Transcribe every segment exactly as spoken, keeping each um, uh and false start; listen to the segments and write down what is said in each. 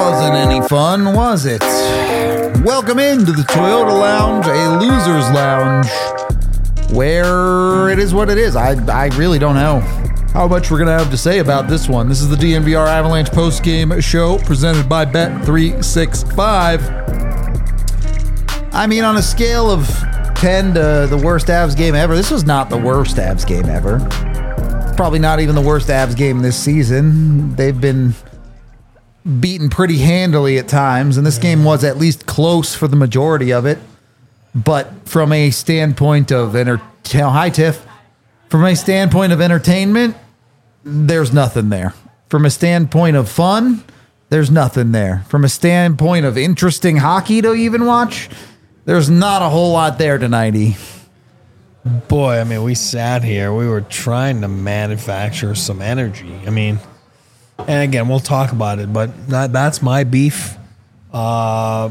wasn't any fun, was it? Welcome into the Toyota Lounge, a loser's lounge, where it is what it is. I, I really don't know how much we're going to have to say about this one. This is the D N V R Avalanche postgame show presented by Bet three sixty-five. I mean, on a scale of ten to the worst Avs game ever, this was not the worst Avs game ever. Probably not even the worst Avs game this season. They've been beaten pretty handily at times, and this game was at least close for the majority of it. But from a standpoint of enter- hi Tiff, from a standpoint of entertainment, there's nothing there. From a standpoint of fun, there's nothing there. From a standpoint of interesting hockey to even watch, there's not a whole lot there tonight. Boy, I mean, we sat here. We were trying to manufacture some energy. I mean, and again, we'll talk about it, but that, that's my beef. Uh,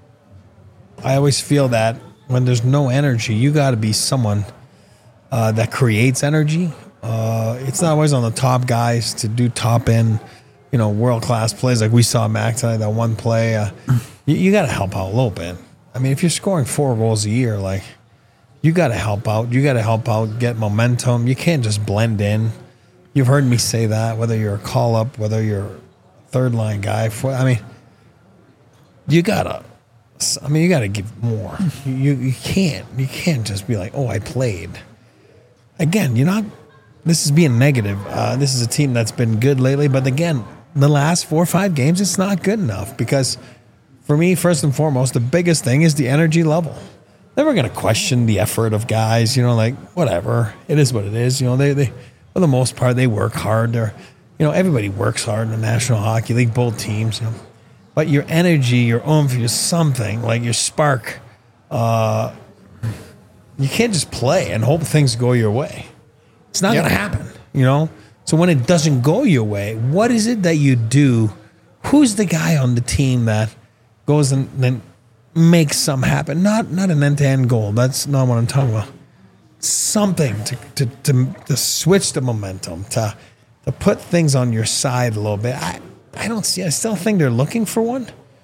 I always feel that when there's no energy, you got to be someone uh, that creates energy. Uh, it's not always on the top guys to do top end, you know, world class plays like we saw Mac tonight. That one play, uh, you, you got to help out a little bit. I mean, if you're scoring four goals a year, like you got to help out. You got to help out, get momentum. You can't just blend in. You've heard me say that, whether you're a call-up, whether you're a third-line guy. For, I mean, you got to I mean, you got to give more. You you can't. You can't just be like, oh, I played. Again, you're not – this is being negative. Uh, this is a team that's been good lately. But, again, the last four or five games, it's not good enough because, for me, first and foremost, the biggest thing is the energy level. Never going to question the effort of guys, you know, like, whatever. It is what it is. You know, they – they for the most part, they work hard. They're, you know, everybody works hard in the National Hockey League, both teams. You know, but your energy, your oomph, your something like your spark, uh, you can't just play and hope things go your way. It's not yep. going to happen. You know. So when it doesn't go your way, what is it that you do? Who's the guy on the team that goes and then makes something happen? Not not an end-to-end goal. That's not what I'm talking about. Something to, to to to switch the momentum, to to put things on your side a little bit. I, I don't see. I still think they're looking for one.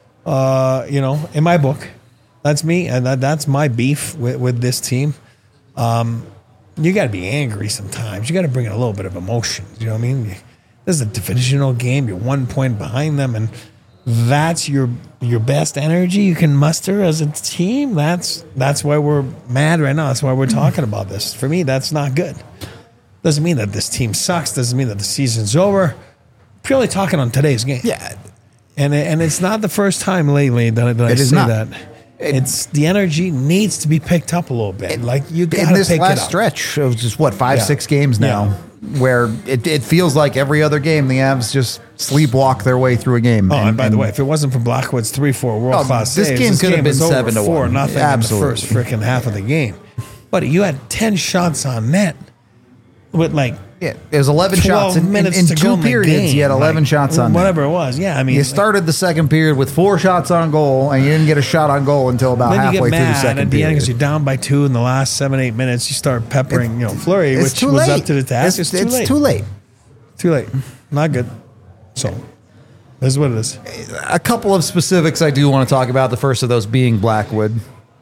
Uh, you know, in my book, that's me, and that, that's my beef with, with this team. Um, you got to be angry sometimes. You got to bring in a little bit of emotion. You know what I mean? This is a divisional game. You're one point behind them, and that's your your best energy you can muster as a team. That's that's why we're mad right now. That's why we're talking about this. For me, that's not good. Doesn't mean that this team sucks. Doesn't mean that the season's over. Purely talking on today's game. Yeah, and and it's not the first time lately that, that I say not. that. It, it's the energy needs to be picked up a little bit. It, like you got to pick it up. In this last stretch of just what five, yeah. six games now. Yeah. Where it, it feels like every other game the Avs just sleepwalk their way through a game. Oh, and, and by and, the way, if it wasn't for Blackwood's three four world class oh, this saves, game this could game have been seven to four one. Nothing Absolutely. in the first freaking half of the game. But you had ten shots on net with like yeah, it was eleven shots in, minutes in, in to two go in the periods. game. You had eleven like, shots on whatever net. it was. Yeah, I mean, you started the second period with four shots on goal, and you didn't get a shot on goal until about then halfway you get through the mad second at the period. end because you're down by two in the last seven eight minutes. You start peppering, it, you know, Fleury, which was late. up to the task. It's, It's, too it's late. too late. Too late. Not good. So, this is what it is. A couple of specifics I do want to talk about. The first of those being Blackwood.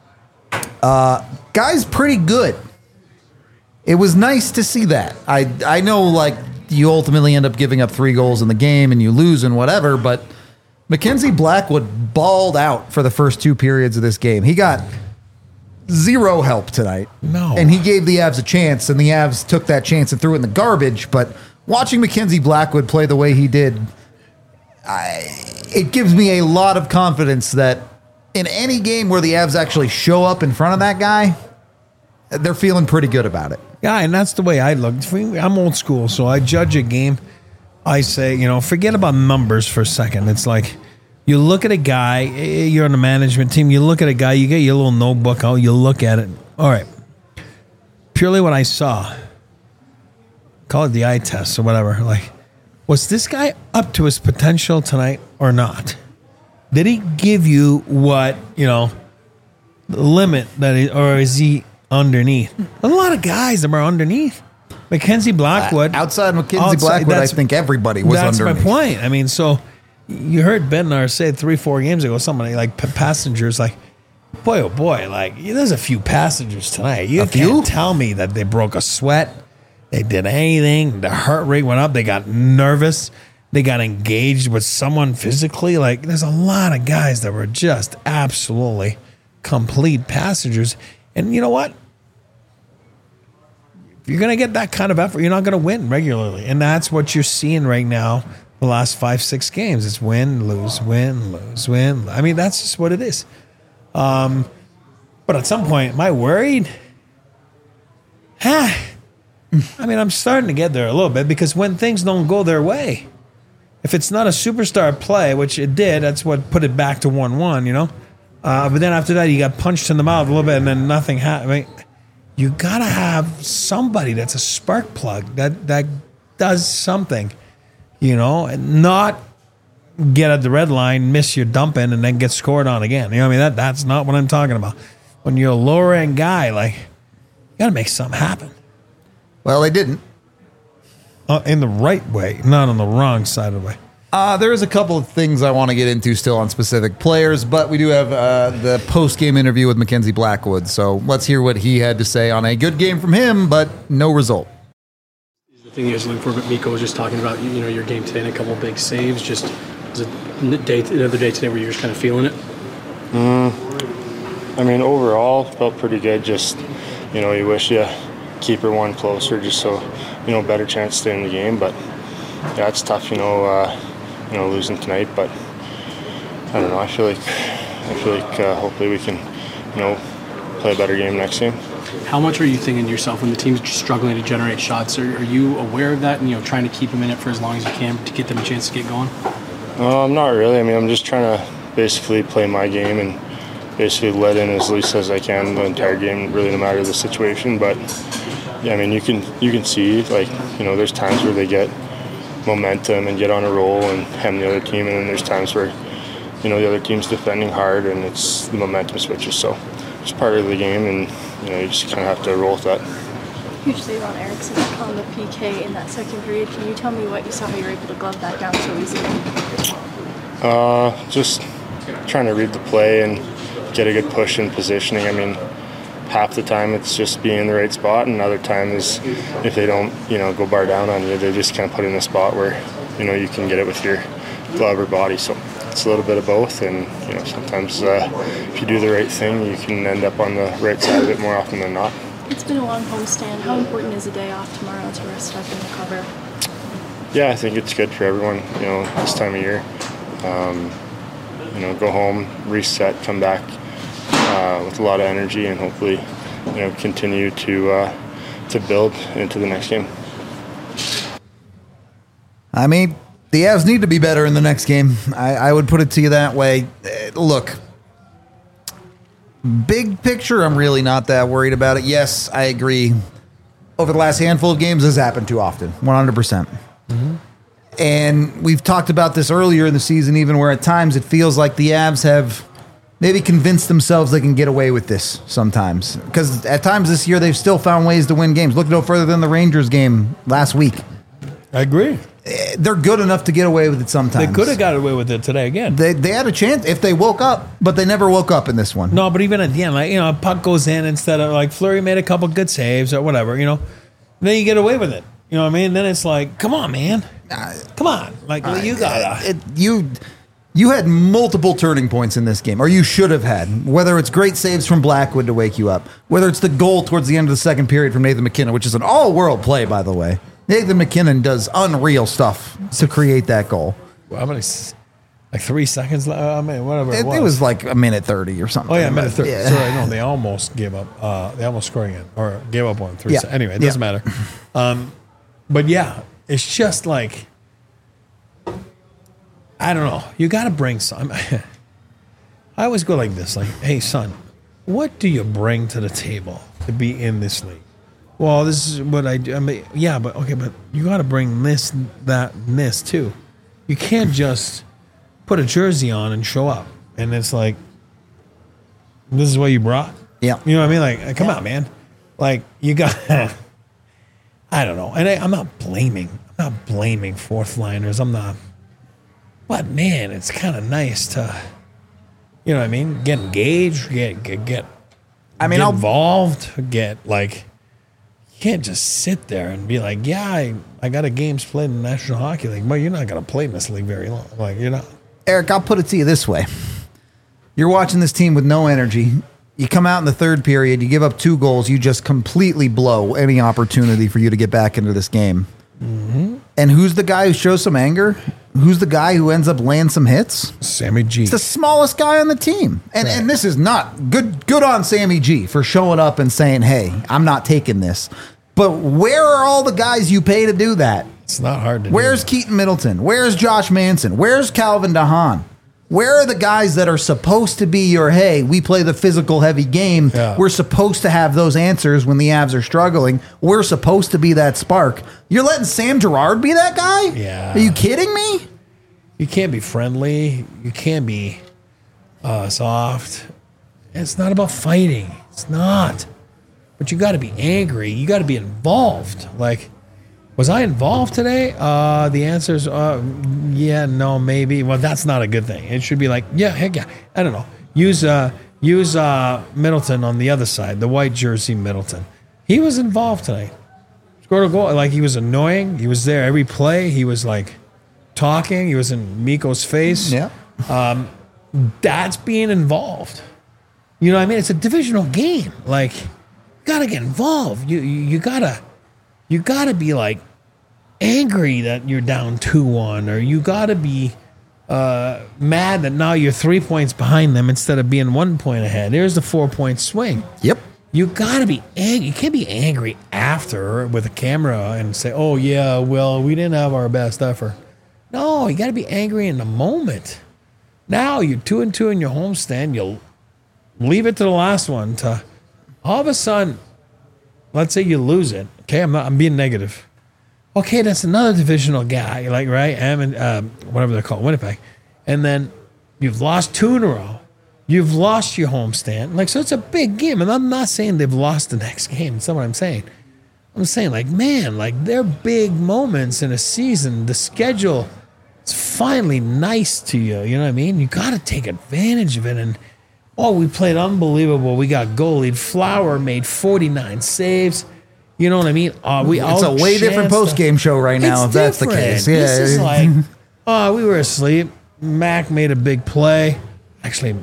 Uh, guy's pretty good. It was nice to see that. I I know, like, you ultimately end up giving up three goals in the game and you lose and whatever, but Mackenzie Blackwood balled out for the first two periods of this game. He got zero help tonight. No. And he gave the Avs a chance, and the Avs took that chance and threw it in the garbage, but watching Mackenzie Blackwood play the way he did, I, it gives me a lot of confidence that in any game where the Avs actually show up in front of that guy, they're feeling pretty good about it. Yeah, and that's the way I look. I'm old school, so I judge a game. I say, you know, forget about numbers for a second. It's like you look at a guy, you're on the management team, you look at a guy, you get your little notebook out, you look at it. All right. Purely what I saw, call it the eye test or whatever, like, was this guy up to his potential tonight or not? Did he give you what, you know, the limit that he, or is he underneath? A lot of guys that are underneath. Mackenzie Blackwood. Uh, outside Mackenzie outside, Blackwood, I think everybody was that's underneath. That's my point. I mean, so you heard Bednar say three, four games ago, somebody like p- passengers, like, boy, oh boy, like there's a few passengers tonight. You A can't few? tell me that they broke a sweat, they did anything, the heart rate went up, they got nervous, they got engaged with someone physically. Like, there's a lot of guys that were just absolutely complete passengers. And you know what? If you're going to get that kind of effort, you're not going to win regularly. And that's what you're seeing right now the last five, six games. It's win, lose, win, lose, win. I mean, that's just what it is. Um, but at some point, am I worried? Ah, I mean, I'm starting to get there a little bit because when things don't go their way, if it's not a superstar play, which it did, that's what put it back to one one, you know? Uh, but then after that, you got punched in the mouth a little bit and then nothing happened. I mean, you got to have somebody that's a spark plug that, that does something, you know, and not get at the red line, miss your dump in, and then get scored on again. You know what I mean? That That's not what I'm talking about. When you're a lower end guy, like, you got to make something happen. Well, they didn't. Uh, in the right way, not on the wrong side of the way. Uh, there is a couple of things I want to get into still on specific players, but we do have uh, the post-game interview with Mackenzie Blackwood. So let's hear what he had to say on a good game from him, but no result. The thing you guys looking for, but Mikko was just talking about, you know, your game today and a couple of big saves. Just was it a day, another day today where you're just kind of feeling it? Mm, I mean, overall, felt pretty good. Just, you know, you wish you keep her one closer just so, you know, better chance to stay in the game. But, yeah, it's tough, you know, uh, you know, losing tonight. But, I don't know, I feel like, I feel like uh, hopefully we can, you know, play a better game next game. How much are you thinking to yourself when the team's struggling to generate shots? Are, are you aware of that and, you know, trying to keep them in it for as long as you can to get them a chance to get going? Um, not really. I mean, I'm just trying to basically play my game and basically let in as least as I can the entire game, really no matter the situation. But, yeah, I mean, you can you can see, like, you know, there's times where they get momentum and get on a roll and hem the other team, and then there's times where, you know, the other team's defending hard and it's the momentum switches. So it's part of the game, and, you know, you just kind of have to roll with that. Huge save on Eriksson on the P K in that second period. Can you tell me what you saw, how you were able to glove that down so easily? Uh, just trying to read the play and get a good push and positioning. I mean, half the time it's just being in the right spot, and other time is if they don't, you know, go bar down on you, they just kind of put in a spot where, you know, you can get it with your glove or body. So it's a little bit of both, and, you know, sometimes uh, if you do the right thing, you can end up on the right side of it more often than not. It's been a long homestand. How important is a day off tomorrow to rest up and recover? Yeah, I think it's good for everyone, you know, this time of year. Um, you know, go home, reset, come back uh, with a lot of energy, and hopefully, you know, continue to uh, to build into the next game. I mean, the Avs need to be better in the next game. I, I would put it to you that way. Uh, look, big picture, I'm really not that worried about it. Yes, I agree. Over the last handful of games, this has happened too often, one hundred percent. Mm-hmm. And we've talked about this earlier in the season, even where at times it feels like the Avs have maybe convinced themselves they can get away with this sometimes. Because at times this year, they've still found ways to win games. Look no further than the Rangers game last week. I agree. They're good enough to get away with it sometimes. They could have got away with it today again. They they had a chance if they woke up, but they never woke up in this one. No, but even at the end, like, you know, a puck goes in instead of, like, Fleury made a couple good saves or whatever, you know. Then you get away with it. You know what I mean? Then it's like, come on, man. Come on. Like, well, you gotta. It, you you had multiple turning points in this game, or you should have had. Whether it's great saves from Blackwood to wake you up, whether it's the goal towards the end of the second period from Nathan McKinnon, which is an all-world play, by the way. Nathan McKinnon does unreal stuff to create that goal. Well, how many? Like three seconds left? I mean, whatever. It, It, was. it was like a minute thirty or something. Oh yeah, minute thirty. Yeah. Sorry, no, they almost gave up. Uh, they almost scored again, or gave up on three. Yeah. Se- anyway, it doesn't Yeah. matter. Um, but yeah, it's just like, I don't know. You got to bring some. I always go like this: like, hey, son, what do you bring to the table to be in this league? Well, this is what I do. I mean, yeah, but okay, but you got to bring this, that, and this too. You can't just put a jersey on and show up, and it's like, this is what you brought. Yeah. You know what I mean? Like, come on, man. Like, you got. I don't know, and I, I'm not blaming. I'm not blaming fourth liners. I'm not. But man, it's kind of nice to, you know what I mean? Get engaged, get get get. I mean, get I'll, involved. Get like, you can't just sit there and be like, yeah, I, I got a games played in the National Hockey League. Well, you're not gonna play in this league very long. Like you're not. Eric, I'll put it to you this way: you're watching this team with no energy. You come out in the third period, you give up two goals, you just completely blow any opportunity for you to get back into this game. Mm-hmm. And who's the guy who shows some anger? Who's the guy who ends up laying some hits? Sammy G. It's the smallest guy on the team. And Right. and this is not good good on Sammy G for showing up and saying, hey, I'm not taking this. But where are all the guys you pay to do that? It's not hard to Where's do. Keaton Middleton? Where's Josh Manson? Where's Calvin DeHaan? Where are the guys that are supposed to be your, hey, we play the physical heavy game. Yeah. We're supposed to have those answers when the Avs are struggling. We're supposed to be that spark. You're letting Sam Girard be that guy? Yeah. Are you kidding me? You can't be friendly. You can't be uh, soft. It's not about fighting. It's not. But you got to be angry. You got to be involved. Like, was I involved today? Uh, the answer is uh, yeah, no, maybe. Well, that's not a good thing. It should be like, yeah, heck yeah. I don't know. Use uh, use uh, Middleton on the other side, the white jersey Middleton. He was involved tonight. Scored a goal. Like, he was annoying. He was there every play. He was like talking. He was in Mikko's face. Yeah. That's being involved. You know what I mean? It's a divisional game. Like, you gotta get involved. You you, you gotta you gotta be like angry that you're down two one, or you gotta be uh, mad that now you're three points behind them instead of being one point ahead. There's the four point swing. Yep. You gotta be angry. You can't be angry after with a camera and say, "Oh yeah, well we didn't have our best effort." No, you gotta be angry in the moment. Now you're two and two in your homestand. You'll leave it to the last one to all of a sudden. Let's say you lose it. Okay, I'm not. I'm being negative. Okay, that's another divisional guy, like right, and um, whatever they're called, Winnipeg, and then you've lost two in a row. You've lost your homestand. Like, so it's a big game. And I'm not saying they've lost the next game. That's not what I'm saying. I'm saying, like, man, like, they're big moments in a season. The schedule is finally nice to you. You know what I mean? You got to take advantage of it. And, oh, we played unbelievable. We got goalied. Flower made forty-nine saves. You know what I mean? Uh, we It's a way different post-game show right now, It's if that's the different. case. Yeah. This is like, oh, we were asleep. Mac made a big play. Actually,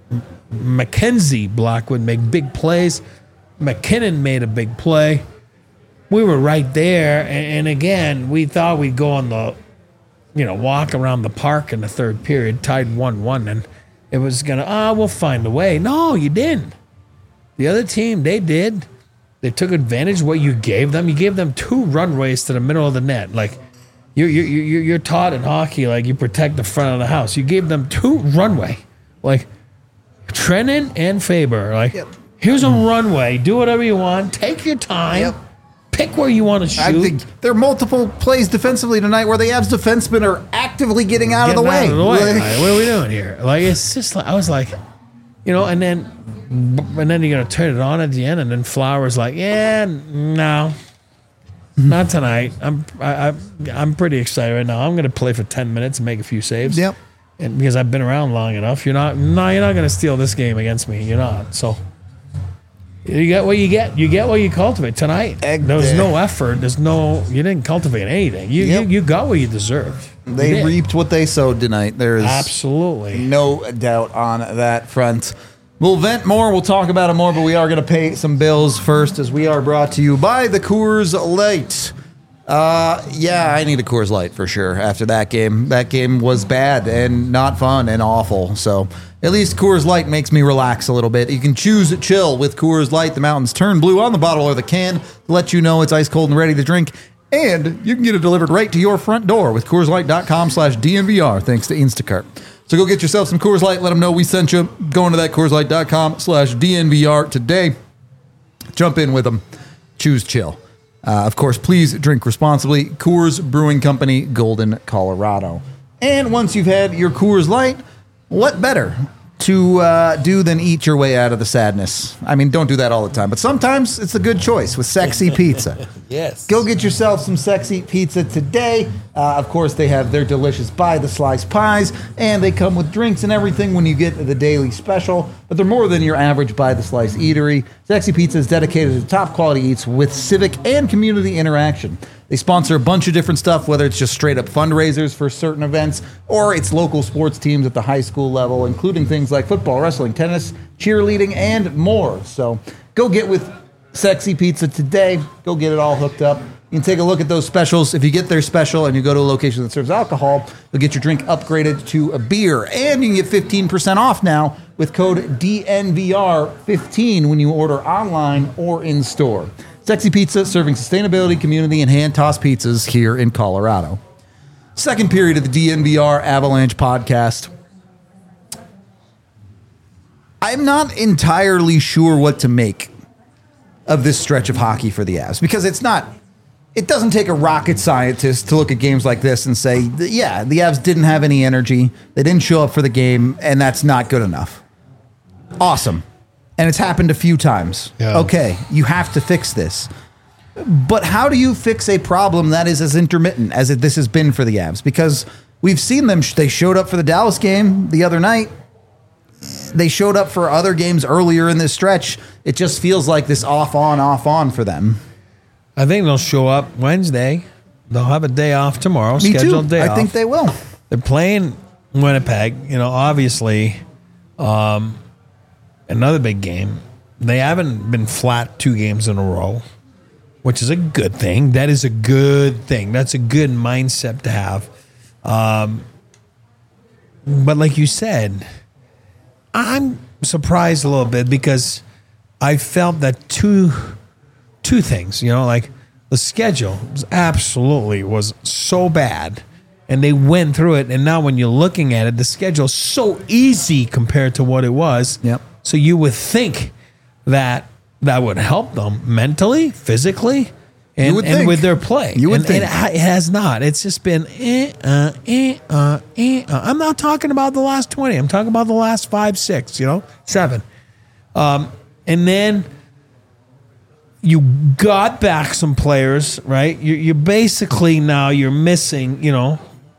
Mackenzie Blackwood made big plays. McKinnon made a big play. We were right there, and, and again, we thought we'd go on the, you know, walk around the park in the third period, tied one one, and it was gonna, ah, oh, we'll find a way. No, you didn't. The other team, they did. They took advantage of what you gave them. You gave them two runways to the middle of the net. Like, you're you're you're, you're taught in hockey, like you protect the front of the house. You gave them two runway, like Trennan and Faber. Like, Yep. here's a runway. Do whatever you want. Take your time. Yep. Pick where you want to shoot. I think there are multiple plays defensively tonight where the Avs defensemen are actively getting out of the Getting way. out of the way. Like- Like, what are we doing here? Like, it's just like, I was like, you know, and then, and then you're going to turn it on at the end, and then Flowers like, yeah, no, not tonight. I'm, I, I, I'm pretty excited right now. I'm going to play for ten minutes and make a few saves. Yep. And because I've been around long enough, you're not, no, you're not going to steal this game against me. You're not. So you get what you get. You get what you cultivate tonight. Egg there was there. no effort. There's no, you didn't cultivate anything. You, Yep. you, you got what you deserved. You They did. reaped what they sowed tonight. There is Absolutely. no doubt on that front. We'll vent more. We'll talk about it more, but we are going to pay some bills first, as we are brought to you by the Coors Light. Uh, yeah, I need a Coors Light for sure after that game. That game was bad and not fun and awful. So at least Coors Light makes me relax a little bit. You can choose chill with Coors Light. The mountains turn blue on the bottle or the can to let you know it's ice cold and ready to drink. And you can get it delivered right to your front door with Coors Light dot com slash D N V R thanks to Instacart. So go get yourself some Coors Light. Let them know we sent you. Go into that Coors Light dot com slash D N V R today. Jump in with them. Choose chill. Uh, of course, please drink responsibly. Coors Brewing Company, Golden, Colorado. And once you've had your Coors Light, what better to uh, do than eat your way out of the sadness? I mean, don't do that all the time, but sometimes it's a good choice with sexy pizza. Yes. Go get yourself some sexy pizza today. Uh, of course, they have their delicious By the Slice pies, and they come with drinks and everything when you get the daily special. But they're more than your average By the Slice eatery. Sexy Pizza is dedicated to top quality eats with civic and community interaction. They sponsor a bunch of different stuff, whether it's just straight up fundraisers for certain events, or it's local sports teams at the high school level, including things like football, wrestling, tennis, cheerleading, and more. So go get with Sexy Pizza today. Go get it all hooked up. You can take a look at those specials. If you get their special and you go to a location that serves alcohol, you'll get your drink upgraded to a beer. And you can get fifteen percent off now with code D N V R fifteen when you order online or in store. Sexy Pizza, serving sustainability, community, and hand-tossed pizzas here in Colorado. Second period of the D N V R Avalanche podcast. I'm not entirely sure what to make of this stretch of hockey for the Avs, because it's not... It doesn't take a rocket scientist to look at games like this and say, yeah, the Avs didn't have any energy, they didn't show up for the game, and that's not good enough. Awesome. And it's happened a few times. Yeah. Okay, you have to fix this. But how do you fix a problem that is as intermittent as it, this has been for the Avs? Because we've seen them, they showed up for the Dallas game the other night. They showed up for other games earlier in this stretch. It just feels like this off-on, off-on for them. I think they'll show up Wednesday. They'll have a day off tomorrow, Me scheduled too. day I off. think they will. They're playing Winnipeg. You know, obviously, um, another big game. They haven't been flat two games in a row, which is a good thing. That is a good thing. That's a good mindset to have. Um, but like you said, I'm surprised a little bit because I felt that two two things, you know, like the schedule was absolutely was so bad and they went through it. And now when you're looking at it, the schedule's so easy compared to what it was. Yep. So you would think that that would help them mentally, physically, and, would and think. with their play. You would and, think. and it ha- it has not. It's just been eh, uh, eh, uh, eh, uh. I'm not talking about the last twenty. I'm talking about the last five, six, you know, seven. Um, and then you got back some players, right? You're, you're basically now you're missing, you know,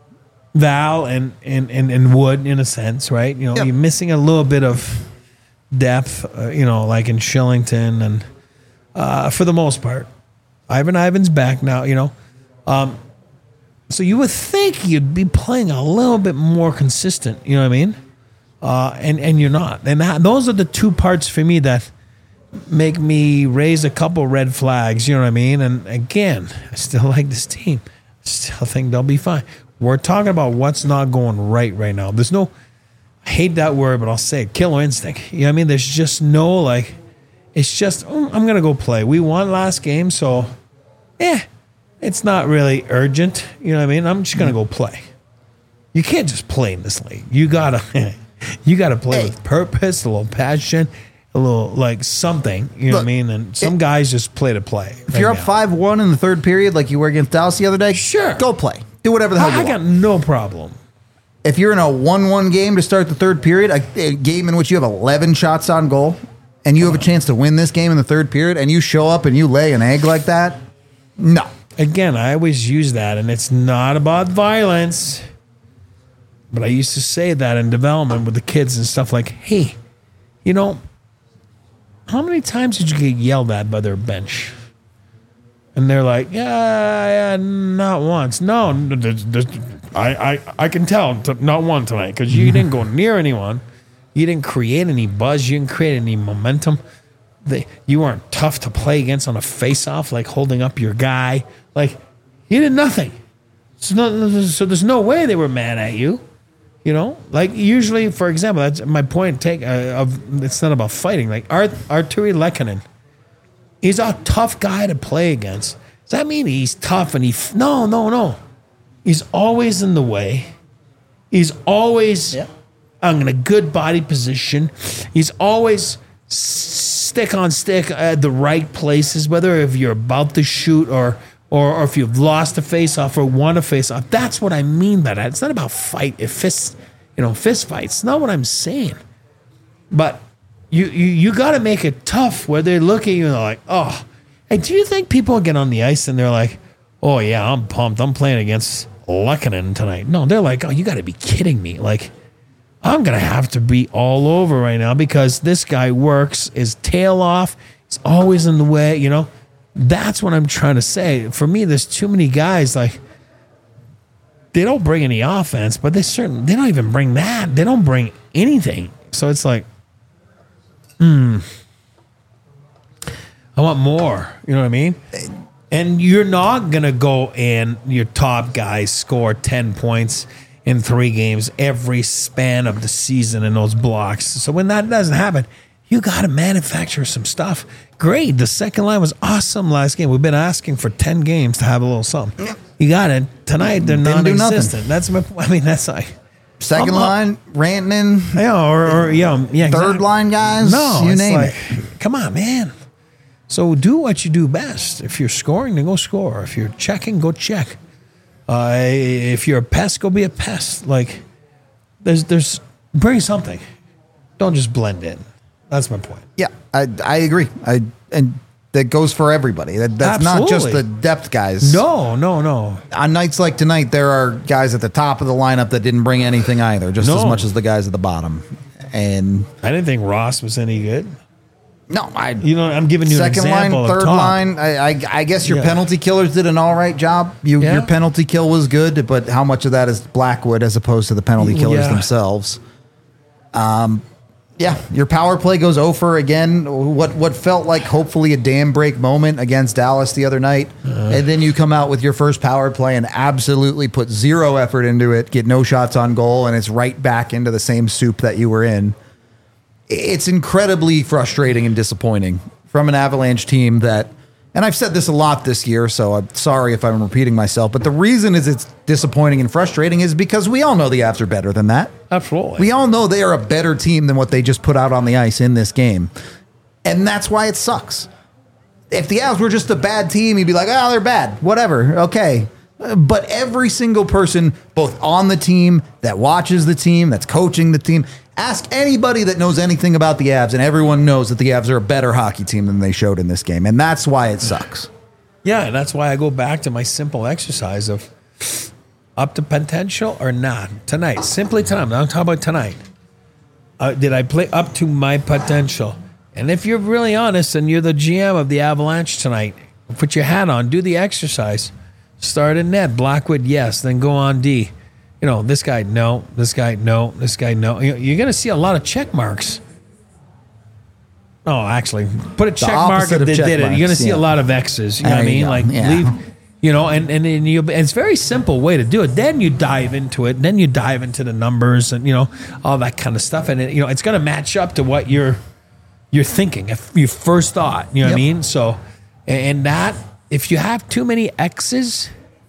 Val and, and, and, and Wood in a sense, right? You know, Yep. you're missing a little bit of depth, uh, you know, like in Shillington and uh, for the most part. Ivan Ivan's back now, you know. Um, so you would think you'd be playing a little bit more consistent, you know what I mean? Uh, and, and you're not. And that, those are the two parts for me that make me raise a couple red flags, you know what I mean? And again, I still like this team. I still think they'll be fine. We're talking about what's not going right right now. There's no, I hate that word, but I'll say it, killer instinct. You know what I mean? There's just no, like, it's just, oh, I'm going to go play. We won last game, so, eh, it's not really urgent. You know what I mean? I'm just going to go play. You can't just play in this league. You got to, you got to play Hey. with purpose, a little passion, a little, like, something. You know Look, what I mean? And some it- guys just play to play. If you're up five one in the third period like you were against Dallas the other day, Sure. go play. Do whatever the hell you I, I want. got no problem. If you're in a one one game to start the third period, a, a game in which you have eleven shots on goal, and you have a chance to win this game in the third period, and you show up and you lay an egg like that, no. Again, I always use that, and it's not about violence. But I used to say that in development with the kids and stuff like, hey, you know, how many times did you get yelled at by their bench? And they're like, yeah, yeah, not once. No, there's- there's- I, I, I can tell, t- not one tonight, because you didn't go near anyone. You didn't create any buzz. You didn't create any momentum. They, you weren't tough to play against on a face-off, like holding up your guy. Like, you did nothing. So, no, so there's no way they were mad at you. You know, like usually, for example, that's my point. Take uh, of it's not about fighting. Like Art, Arturi Lehkonen, he's a tough guy to play against. Does that mean he's tough and he? F- no, no, no. He's always in the way. He's always Yep. in a good body position. He's always s- stick on stick at the right places, whether if you're about to shoot or. Or, or if you've lost a face-off or won a face-off. That's what I mean by that. It's not about fight, if fist, you know, fist fights. It's not what I'm saying. But you you, you got to make it tough where they look at you and they're like, oh. Hey, do you think people get on the ice and they're like, oh, yeah, I'm pumped. I'm playing against Lehkonen tonight. No, they're like, oh, you got to be kidding me. Like, I'm going to have to be all over right now because this guy works his tail off. He's always in the way, you know. That's what I'm trying to say. For me, there's too many guys, like, they don't bring any offense, but they certainly, they don't even bring that. They don't bring anything. So it's like, hmm, I want more. You know what I mean? And you're not going to go and your top guys score ten points in three games every span of the season in those blocks. So when that doesn't happen, you got to manufacture some stuff. Great. The second line was awesome last game. We've been asking for ten games to have a little something. You got it. Tonight, they're Didn't do non-existent. That's my, I mean, that's like. Second I'm, line, Rantanen. Yeah, or, or yeah, yeah. Third exactly. line guys. No, you it's name like, it. Come on, man. So do what you do best. If you're scoring, then go score. If you're checking, go check. Uh, if you're a pest, go be a pest. Like, there's, there's, bring something. Don't just blend in. That's my point. Yeah, I I agree. I and that goes for everybody. That, that's not just Absolutely. the depth guys. No, no, no. On nights like tonight, there are guys at the top of the lineup that didn't bring anything either, just No. as much as the guys at the bottom. And I didn't think Ross was any good. no, I You know, I'm giving you second an line, example third of top. line. I, I I guess your Yeah. penalty killers did an all right job. You, Yeah. Your penalty kill was good, but how much of that is Blackwood as opposed to the penalty killers Yeah. themselves? Um, yeah, your power play goes over again. What what felt like hopefully a dam break moment against Dallas the other night, Uh. and then you come out with your first power play and absolutely put zero effort into it, get no shots on goal, and it's right back into the same soup that you were in. It's incredibly frustrating and disappointing from an Avalanche team that, and I've said this a lot this year, so I'm sorry if I'm repeating myself, but the reason is it's disappointing and frustrating is because we all know the Avs are better than that. Absolutely. We all know they are a better team than what they just put out on the ice in this game. And that's why it sucks. If the Avs were just a bad team, you'd be like, oh, they're bad. Whatever. Okay. But every single person, both on the team, that watches the team, that's coaching the team, ask anybody that knows anything about the Avs, and everyone knows that the Avs are a better hockey team than they showed in this game. And that's why it sucks. Yeah, and that's why I go back to my simple exercise of up to potential or not tonight. Simply tonight. I'm not talking about tonight. Uh, did I play up to my potential? And if you're really honest and you're the G M of the Avalanche tonight, put your hat on, do the exercise. Start in net. Blackwood, yes. Then go on D. You know, this guy, no. This guy, no. This guy, no. You know, you're going to see a lot of check marks. Oh, actually, put a check mark opposite if of they check did it. You're going to marks, see yeah. a lot of X's. You know There what I you mean? go, Like, yeah. leave, you know, and, and, and, you, and it's a very simple way to do it. Then you dive into it. Then you dive into the numbers and, you know, all that kind of stuff. And, it, you know, it's going to match up to what you're, you're thinking, if you first thought. You know what I Yep. mean? So, and that, if you have too many X's,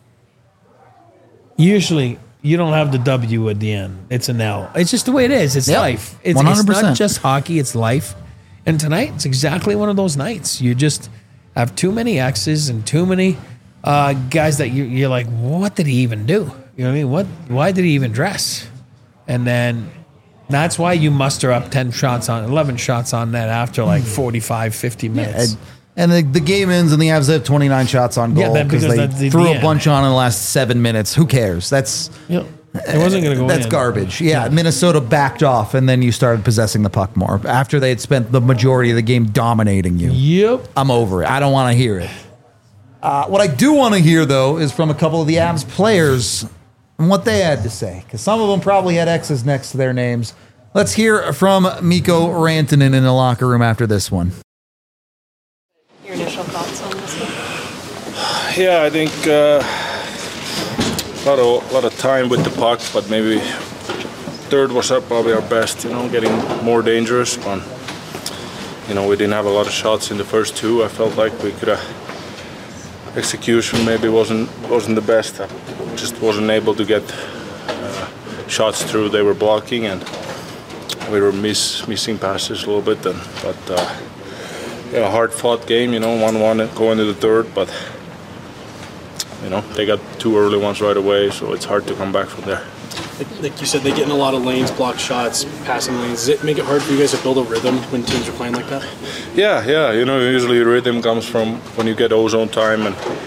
usually you don't have the W at the end. It's an L. It's just the way it is. It's Yep. life. It's, one hundred it's percent. not just hockey. It's life. And tonight, it's exactly one of those nights. You just have too many X's and too many uh, guys that you, you're like, what did he even do? You know what I mean? What? Why did he even dress? And then that's why you muster up ten shots on, eleven shots on net after like forty-five, fifty minutes. And, and the, the game ends and the Avs have twenty-nine shots on Yeah, goal that- because because they that's the- threw the a end. bunch on in the last seven minutes. Who cares? That's Yep. It wasn't going to go That's in. garbage. Yeah, Minnesota backed off, and then you started possessing the puck more after they had spent the majority of the game dominating you. Yep. I'm over it. I don't want to hear it. Uh, what I do want to hear, though, is from a couple of the Avs players and what they had to say, because some of them probably had X's next to their names. Let's hear from Mikko Rantanen in the locker room after this one. Your initial thoughts on this one? Yeah, I think uh, a lot of lot of time with the puck, but maybe third was uh, probably our best. You know, getting more dangerous. But, you know, we didn't have a lot of shots in the first two. I felt like we could have. Execution maybe wasn't wasn't the best. I just wasn't able to get uh, shots through. They were blocking, and we were miss missing passes a little bit. And but uh, yeah, hard fought game. You know, one one going to the third, but. You know, they got two early ones right away, so it's hard to come back from there. Like, like you said, they get in a lot of lanes, block shots, passing lanes. Does it make it hard for you guys to build a rhythm when teams are playing like that? Yeah, yeah. You know, usually rhythm comes from when you get ozone time and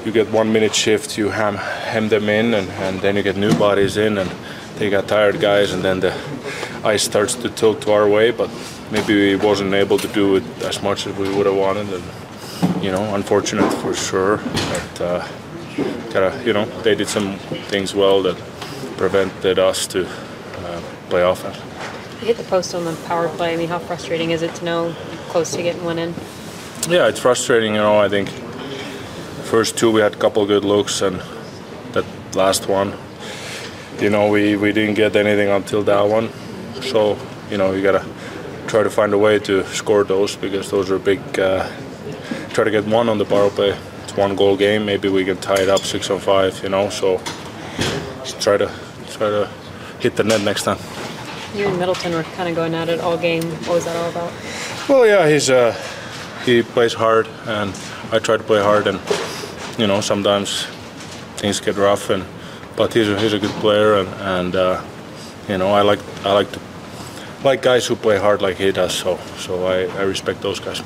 you get one minute shift, you ham, hem them in, and, and then you get new bodies in, and they got tired guys, and then the ice starts to tilt to our way. But maybe we wasn't able to do it as much as we would have wanted, and you know, unfortunate for sure. But uh, gotta, you know, they did some things well that prevented us to uh, play offense. You hit the post on the power play. I mean, how frustrating is it to know you're close to getting one in? Yeah, it's frustrating. You know, I think first two we had a couple good looks, and that last one, you know, we, we didn't get anything until that one. So, you know, you gotta try to find a way to score those, because those are big. Uh, try to get one on the power play. It's one goal game. Maybe we can tie it up six on five. You know, so just try to try to hit the net next time. You and Middleton were kind of going at it all game. What was that all about? Well, yeah, he's uh, he plays hard, and I try to play hard, and you know, sometimes things get rough, and but he's a, he's a good player, and and uh, you know, I like I like to like guys who play hard like he does. So so I, I respect those guys.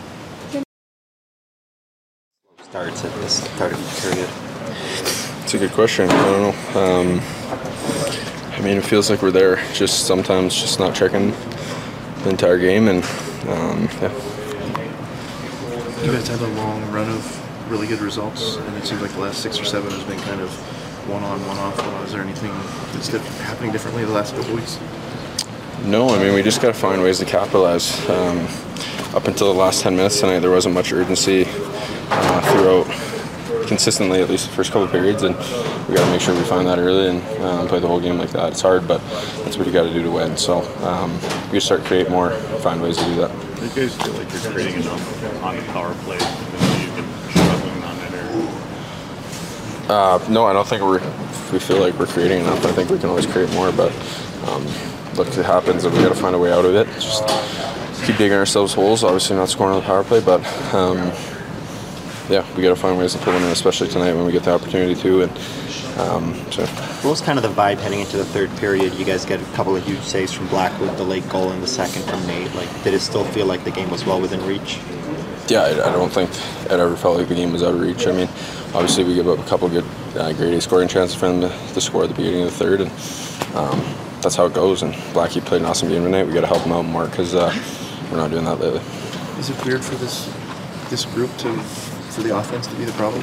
Starts at the start of the period. It's a good question. I don't know. Um, I mean, it feels like we're there. Just sometimes, just not checking the entire game, and um, yeah. You guys had a long run of really good results, and it seems like the last six or seven has been kind of one on, one off. Is there anything that's happening differently the last couple weeks? No, I mean, we just got to find ways to capitalize. Um, up until the last ten minutes tonight, there wasn't much urgency uh, throughout, consistently, at least the first couple of periods, and we got to make sure we find that early and um, play the whole game like that. It's hard, but that's what you got to do to win. So um, we just start to create more, find ways to do that. Do you guys feel like you're creating enough on the power play? You've been struggling on it, or? Uh, no, I don't think we're. We feel like we're creating enough. I think we can always create more, but um, look, it happens, and we got to find a way out of it. Just keep digging ourselves holes. Obviously, not scoring on the power play, but um, yeah, we got to find ways to pull them in, especially tonight when we get the opportunity to. And um, so. What was kind of the vibe heading into the third period? You guys get a couple of huge saves from Blackwood, the late goal in the second from Nate. Like, did it still feel like the game was well within reach? Yeah, I, I don't think it ever felt like the game was out of reach. I mean, obviously we give up a couple of good uh, grade A scoring chances for them to, to score at the beginning of the third, and um, that's how it goes. And Blackie played an awesome game tonight. We got to help him out more because uh, we're not doing that lately. Is it weird for this this group to for the offense to be the problem?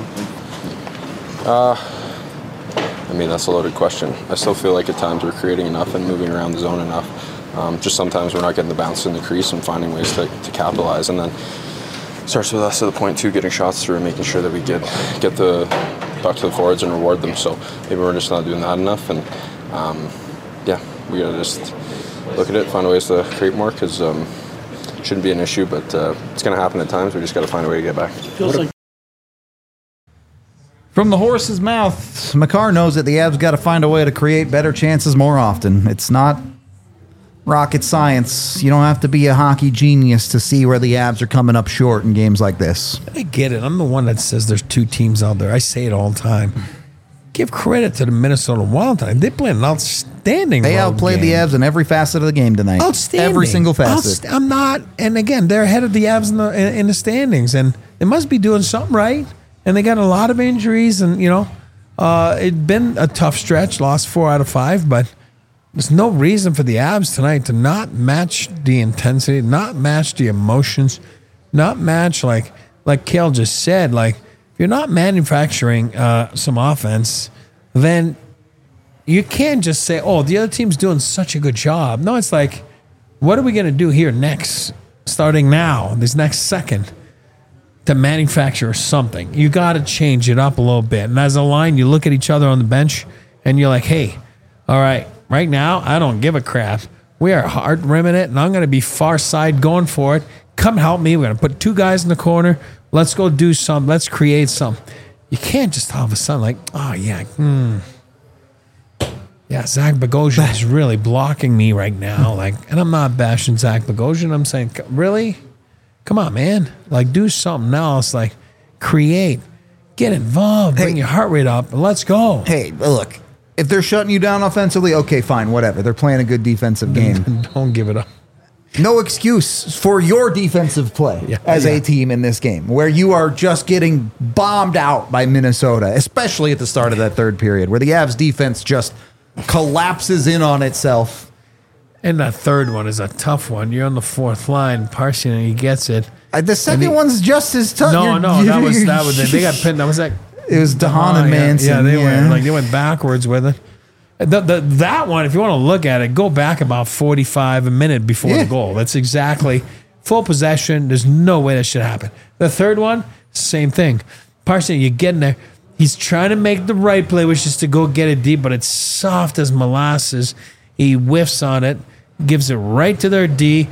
Uh, I mean, that's a loaded question. I still feel like at times we're creating enough and moving around the zone enough. Um, just sometimes we're not getting the bounce in the crease and finding ways to, to capitalize. And then it starts with us to the point two, getting shots through and making sure that we get get the puck to the forwards and reward them. So maybe we're just not doing that enough. And um, yeah, we gotta just look at it, find ways to create more, because um, it shouldn't be an issue, but uh, it's gonna happen at times. We just gotta find a way to get back. Feels like From the horse's mouth, Makar knows that the Avs got to find a way to create better chances more often. It's not rocket science. You don't have to be a hockey genius to see where the Avs are coming up short in games like this. I get it. I'm the one that says there's two teams out there. I say it all the time. Give credit to the Minnesota Wild. They played an outstanding They road outplayed game. the Avs in every facet of the game tonight. Outstanding. Every single facet. Outst- I'm not, and again, they're ahead of the Avs in the in, in the standings, and they must be doing something right. And they got a lot of injuries, and you know, uh, it'd been a tough stretch. Lost four out of five, but there's no reason for the Avs tonight to not match the intensity, not match the emotions, not match like like Kale just said. Like if you're not manufacturing uh, some offense, then you can't just say, "Oh, the other team's doing such a good job." No, it's like, what are we going to do here next, starting now, this next second? To manufacture something, you got to change it up a little bit. And as a line, you look at each other on the bench and you're like, hey, all right, right now, I don't give a crap. We are hard rimming it, and I'm going to be far side going for it. Come help me. We're going to put two guys in the corner. Let's go do something. Let's create something. You can't just all of a sudden like, oh, yeah, hmm. Yeah, Zach Bogosian is really blocking me right now. Like, and I'm not bashing Zach Bogosian. I'm saying, really? Come on, man. Like, do something else. Like, create. Get involved. Bring hey, your heart rate up. And let's go. Hey, look. If they're shutting you down offensively, okay, fine, whatever. They're playing a good defensive game. Don't give it up. No excuse for your defensive play Yeah, as yeah. a team in this game, where you are just getting bombed out by Minnesota, especially at the start of that third period, where the Avs defense just collapses in on itself. And that third one is a tough one. You're on the fourth line. Parson, he gets it. Uh, the second he- one's just as tough. No, You're- no, that was that was it. They got pinned. That was that. It was DeHaan and yeah, Manson. Yeah, they yeah. went like they went backwards with it. The, the, that one, if you want to look at it, go back about forty-five a minute before Yeah. the goal. That's exactly full possession. There's no way that should happen. The third one, same thing. Parson, you get in there. He's trying to make the right play, which is to go get it deep, but it's soft as molasses. He whiffs on it, gives it right to their D.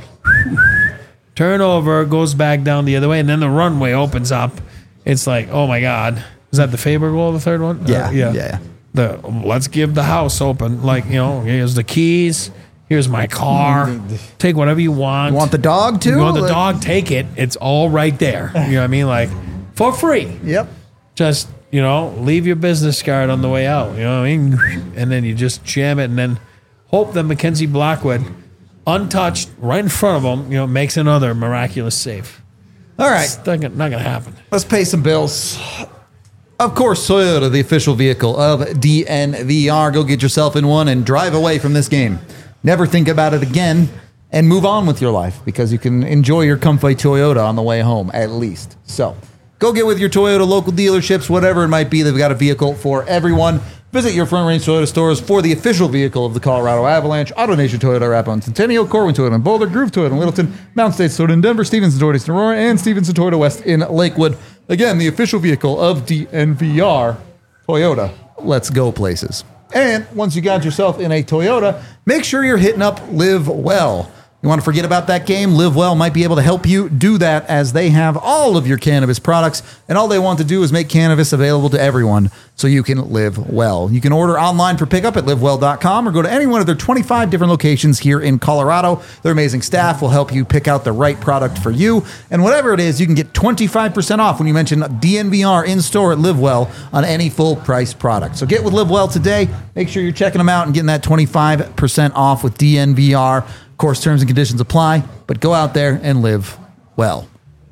Turnover, goes back down the other way, and then the runway opens up. It's like, oh my God. Is that the Faber goal, the third one? Yeah, Uh, yeah. yeah. The let's give the house open. Like, you know, here's the keys. Here's my car. Take whatever you want. You want the dog too? You want the Like- dog? Take it. It's all right there. You know what I mean? Like, for free. Yep. Just, you know, leave your business card on the way out. You know what I mean? And then you just jam it and then hope that Mackenzie Blackwood, untouched, right in front of him, you know, makes another miraculous save. All right. It's not gonna, not gonna happen. Let's pay some bills. Of course, Toyota, the official vehicle of D N V R. Go get yourself in one and drive away from this game. Never think about it again and move on with your life, because you can enjoy your comfy Toyota on the way home, at least. So go get with your Toyota local dealerships, whatever it might be. They've got a vehicle for everyone. Visit your Front Range Toyota stores for the official vehicle of the Colorado Avalanche. Auto Nation Toyota Arapahoe and Centennial, Corwin Toyota in Boulder, Groove Toyota in Littleton, Mountain States Toyota in Denver, Stevenson Toyota in Aurora, and Stevenson Toyota West in Lakewood. Again, the official vehicle of D N V R, Toyota. Let's go places. And once you got yourself in a Toyota, make sure you're hitting up Live Well. You want to forget about that game? Live Well might be able to help you do that, as they have all of your cannabis products, and all they want to do is make cannabis available to everyone so you can live well. You can order online for pickup at live well dot com or go to any one of their twenty-five different locations here in Colorado. Their amazing staff will help you pick out the right product for you, and whatever it is, you can get twenty-five percent off when you mention D N V R in store at Live Well on any full price product. So get with Live Well today. Make sure you're checking them out and getting that twenty-five percent off with D N V R. Of course, terms and conditions apply, but go out there and live well.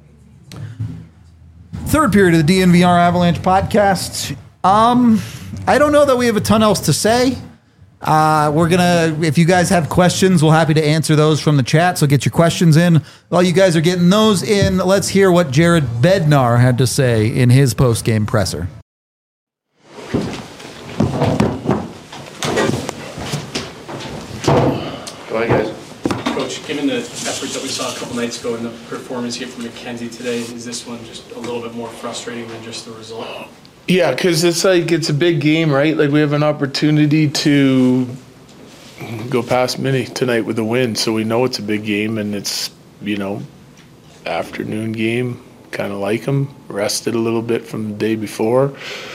Third period of the D N V R Avalanche podcast. Um, I don't know that we have a ton else to say. Uh, we're gonna, if you guys have questions, we're happy to answer those from the chat. So get your questions in. While you guys are getting those in, let's hear what Jared Bednar had to say in his post-game presser. Go ahead, guys. Coach, given the effort that we saw a couple nights ago and the performance here from McKenzie today, is this one just a little bit more frustrating than just the result? Yeah, because it's like it's a big game, right? Like we have an opportunity to go past Mini tonight with a win, so we know it's a big game, and it's, you know, afternoon game, kind of like them. Rested a little bit from the day before,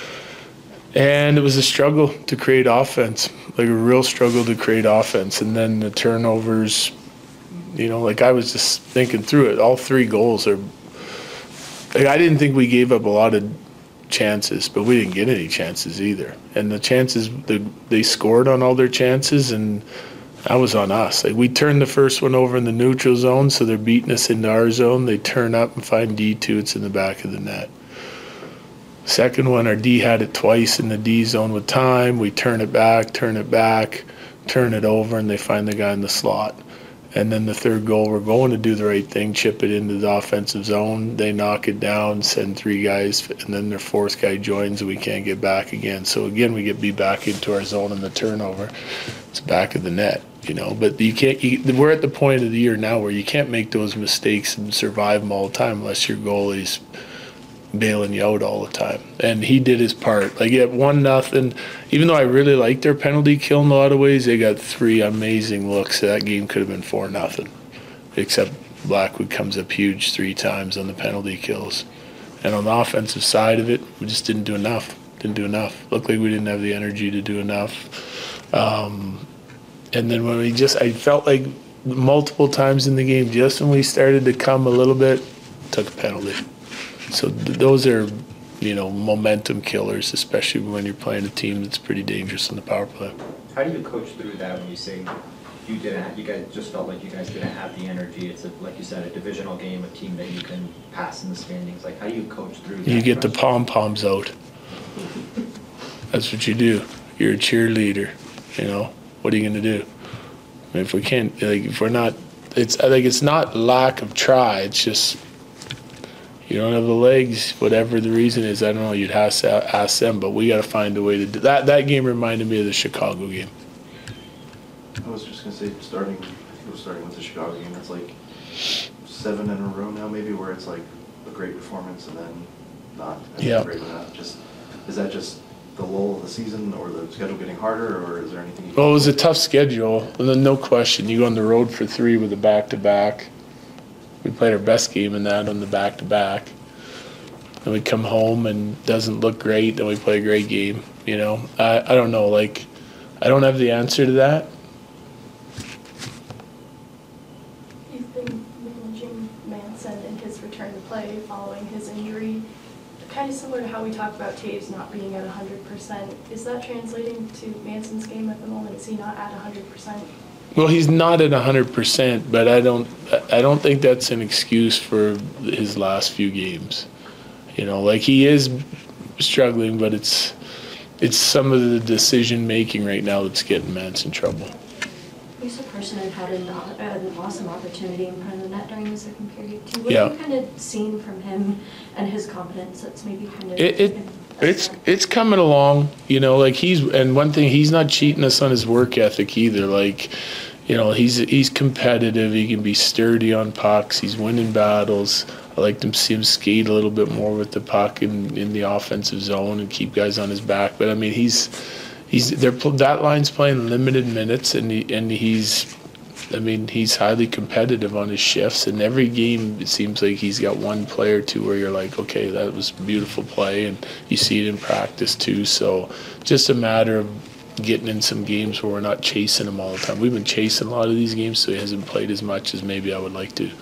and it was a struggle to create offense, like a real struggle to create offense, and then the turnovers. You know, like I was just thinking through it. All three goals are. Like I didn't think we gave up a lot of chances, but we didn't get any chances either. And the chances, the, they scored on all their chances, and that was on us. Like we turned the first one over in the neutral zone, so they're beating us into our zone. They turn up and find D two. It's in the back of the net. Second one, our D had it twice in the D zone with time. We turn it back, turn it back, turn it over, and they find the guy in the slot. And then the third goal, we're going to do the right thing, chip it into the offensive zone. They knock it down, send three guys, and then their fourth guy joins, and we can't get back again. So again, we get beat back into our zone, and the turnover, it's back of the net, you know. But you can't. You, we're at the point of the year now where you can't make those mistakes and survive them all the time unless your goalie's bailing you out all the time. And he did his part. Like at one nothing, even though I really liked their penalty kill in a lot of ways, they got three amazing looks. That game could have been four nothing, except Blackwood comes up huge three times on the penalty kills. And on the offensive side of it, we just didn't do enough. Didn't do enough. Looked like we didn't have the energy to do enough. Um, and then when we just, I felt like multiple times in the game, just when we started to come a little bit, took a penalty. So th- those are, you know, momentum killers, especially when you're playing a team that's pretty dangerous in the power play. How do you coach through that when you say you didn't, you guys just felt like you guys didn't have the energy. It's a, like you said, a divisional game, a team that you can pass in the standings. Like, how do you coach through that? You get the pom poms out. That's what you do. You're a cheerleader. You know, what are you going to do? I mean, if we can't, like, if we're not, it's I think it's not lack of try. It's just you don't have the legs, whatever the reason is. I don't know. You'd have to ask them, but we got to find a way to do that. That game reminded me of the Chicago game. I was just gonna say, starting, I think it was starting with the Chicago game. It's like seven in a row now, maybe, where it's like a great performance and then not. And Yeah. Great enough. Just is that just the lull of the season, or the schedule getting harder, or is there anything? You Well, it was a tough schedule, and then no question. You go on the road for three with a back-to-back. We played our best game in that on the back-to-back. And we come home and doesn't look great, and we play a great game. You know, I I don't know. Like, I don't have the answer to that. You've been managing Manson and his return to play following his injury. Kind of similar to how we talked about Taves not being at one hundred percent. Is that translating to Manson's game at the moment? Is he not at one hundred percent? Well, he's not at one hundred percent, but I don't I don't think that's an excuse for his last few games. You know, like, he is struggling, but it's it's some of the decision making right now that's getting Mance in trouble. Lisa Persson had an, an awesome opportunity in front of the net during the second period too. What Yeah. have you kind of seen from him and his confidence that's maybe kind of It, it it's it's coming along, you know, like he's and one thing, he's not cheating us on his work ethic either. Like, you know, he's he's competitive, he can be sturdy on pucks, he's winning battles. I like to see him skate a little bit more with the puck in, in the offensive zone and keep guys on his back. But I mean, he's he's they're that line's playing limited minutes, and he, and he's I mean, he's highly competitive on his shifts, and every game it seems like he's got one play or two where you're like, okay, that was a beautiful play, and you see it in practice too. So just a matter of getting in some games where we're not chasing him all the time. We've been chasing a lot of these games, so he hasn't played as much as maybe I would like to.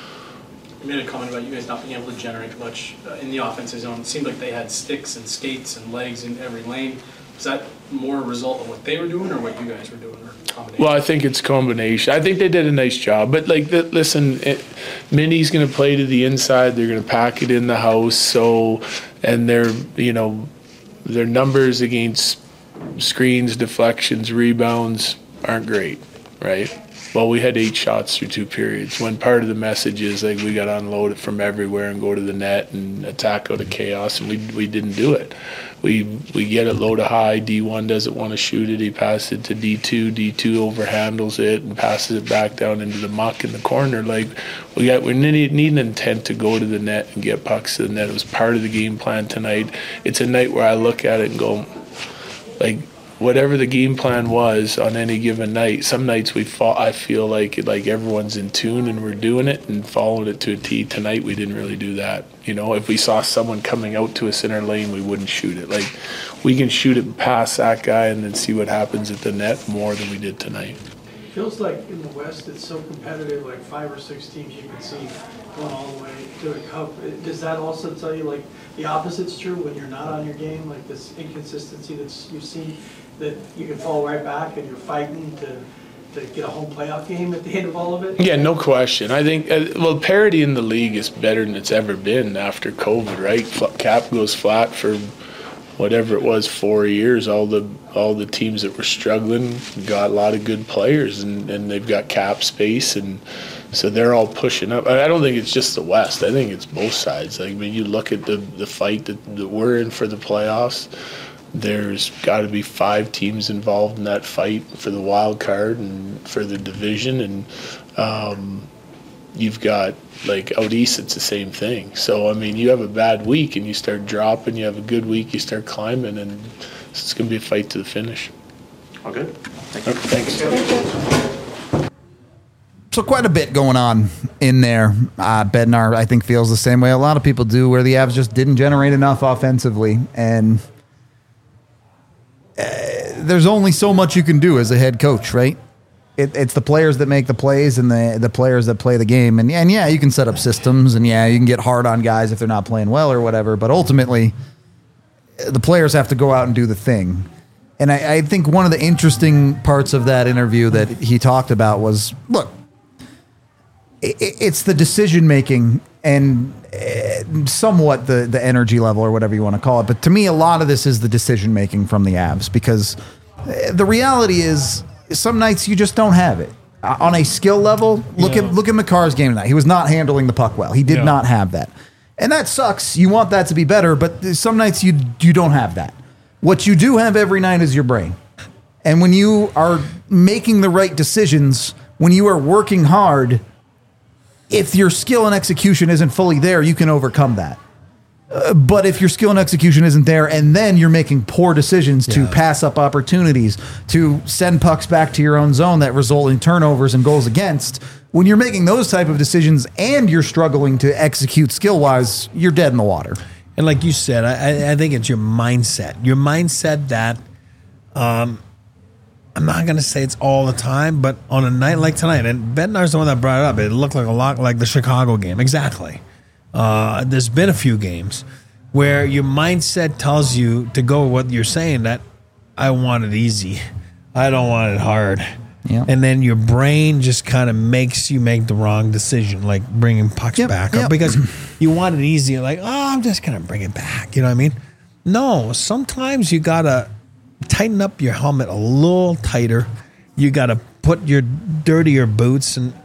You made a comment about you guys not being able to generate much uh, in the offensive zone. It seemed like they had sticks and skates and legs in every lane. Was that more a result of what they were doing or what you guys were doing, or combination? Well, I think it's a combination. I think they did a nice job. But, like, the, listen, it, Minnie's going to play to the inside. They're going to pack it in the house. So, and their, you know, their numbers against screens, deflections, rebounds aren't great, right? Well, we had eight shots through two periods. When part of the message is, like, we got to unload it from everywhere and go to the net and attack out of chaos, and we we didn't do it. We we get it low to high. D one doesn't want to shoot it. He passes it to D two. D two overhandles it and passes it back down into the muck in the corner. Like, we got we need, need an intent to go to the net and get pucks to the net. It was part of the game plan tonight. It's a night where I look at it and go, like, whatever the game plan was on any given night, some nights we fall, I feel like like everyone's in tune and we're doing it and following it to a T. Tonight we didn't really do that. You know, if we saw someone coming out to us in our lane, we wouldn't shoot it. Like, we can shoot it past that guy and then see what happens at the net more than we did tonight. Feels like in the West it's so competitive, like five or six teams you can see going all the way to a cup. Does that also tell you, like, the opposite's true when you're not on your game, like this inconsistency that you've seen, that you can fall right back and you're fighting to to get a home playoff game at the end of all of it? Yeah, no question. I think, uh, well, parity in the league is better than it's ever been after COVID, right? F- cap goes flat for whatever it was, four years. All the all the teams that were struggling got a lot of good players, and, and they've got cap space, and so they're all pushing up. I don't think it's just the West. I think it's both sides. Like, I mean, you look at the, the fight that, that we're in for the playoffs, there's got to be five teams involved in that fight for the wild card and for the division, and um, you've got, like, out east, it's the same thing. So, I mean, you have a bad week and you start dropping, you have a good week, you start climbing, and it's going to be a fight to the finish. All good. Thank you. Thanks. So quite a bit going on in there. Uh, Bednar, I think, feels the same way a lot of people do, where the Avs just didn't generate enough offensively, and uh, there's only so much you can do as a head coach, right? It, it's the players that make the plays and the the players that play the game. And, and yeah, you can set up systems, and yeah, you can get hard on guys if they're not playing well or whatever. But ultimately, the players have to go out and do the thing. And I, I think one of the interesting parts of that interview that he talked about was, look, it, it's the decision making and uh, somewhat the, the energy level or whatever you want to call it. But to me, a lot of this is the decision making from the Avs, because uh, the reality is some nights you just don't have it. Uh, on a skill level, look Yeah. at look at McCarr's game tonight. He was not handling the puck well. He did Yeah. not have that. And that sucks. You want that to be better, but some nights you you don't have that. What you do have every night is your brain. And when you are making the right decisions, when you are working hard, if your skill and execution isn't fully there, you can overcome that. Uh, but if your skill and execution isn't there, and then you're making poor decisions to Yeah. pass up opportunities, to send pucks back to your own zone that result in turnovers and goals against, when you're making those type of decisions and you're struggling to execute skill-wise, you're dead in the water. And like you said, I, I think it's your mindset. Your mindset that, um, I'm not going to say it's all the time, but on a night like tonight, and Bednar's the one that brought it up, it looked like a lot like the Chicago game. Exactly. Uh, there's been a few games where your mindset tells you to go with what you're saying, that I want it easy. I don't want it hard. Yeah. And then your brain just kind of makes you make the wrong decision, like bringing pucks Yep, back yep. up, because you want it easy. Like, oh, I'm just going to bring it back. You know what I mean? No, sometimes you got to tighten up your helmet a little tighter. You got to put your dirtier boots and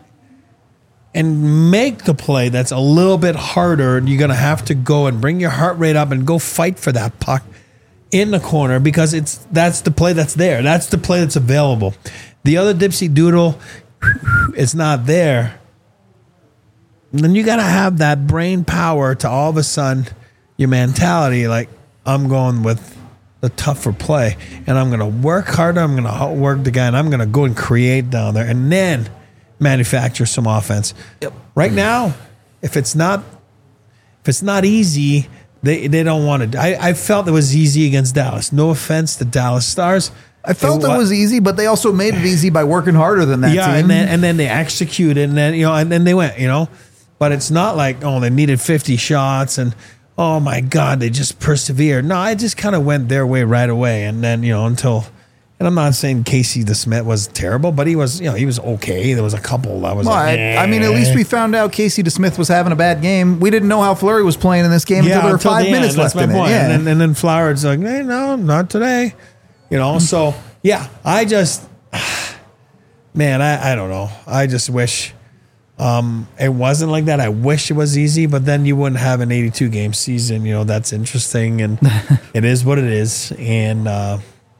and make the play that's a little bit harder. You're going to have to go and bring your heart rate up and go fight for that puck in the corner, because it's that's the play that's there. That's the play that's available. The other dipsy doodle, it's not there. And then you got to have that brain power to all of a sudden, your mentality, like, I'm going with the tougher play, and I'm going to work harder. I'm going to work the guy, and I'm going to go and create down there, and then manufacture some offense. Yep. Right now, if it's not if it's not easy, they they don't want to. I, I felt it was easy against Dallas. No offense to Dallas Stars. I felt It it wa- was easy, but they also made it easy by working harder than that yeah, team. and then and then they executed, and then you know, and then they went, you know. But it's not like, oh, they needed fifty shots, and oh my God, they just persevered. No, I just kind of went their way right away, and then you know until. And I'm not saying Casey DeSmith was terrible, but he was, you know, he was okay. There was a couple that was Well, like, I, I mean, at least we found out Casey DeSmith was having a bad game. We didn't know how Fleury was playing in this game until there were five the minutes end. left That's in my it. point. Yeah. And, then, and then Flower's like, hey, no, not today. You know, so yeah, I just, man, I, I don't know. I just wish um, it wasn't like that. I wish it was easy, but then you wouldn't have an eighty-two game season. You know, that's interesting, and it is what it is. And uh,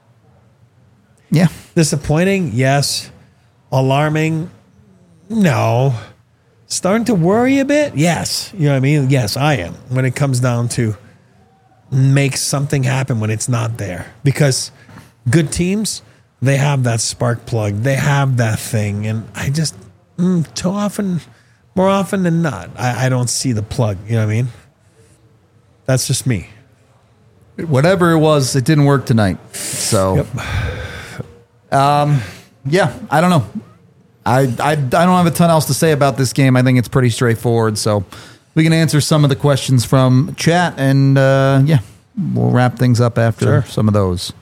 yeah, disappointing, yes. Alarming, no. Starting to worry a bit, yes. You know what I mean? Yes, I am. When it comes down to make something happen when it's not there, because good teams, they have that spark plug, they have that thing, and I just mm, too often, more often than not, I, I don't see the plug. You know what I mean? That's just me. Whatever it was, it didn't work tonight. So, um, yeah, I don't know. I, I I don't have a ton else to say about this game. I think it's pretty straightforward. So we can answer some of the questions from chat, and uh, yeah, we'll wrap things up after Sure. some of those.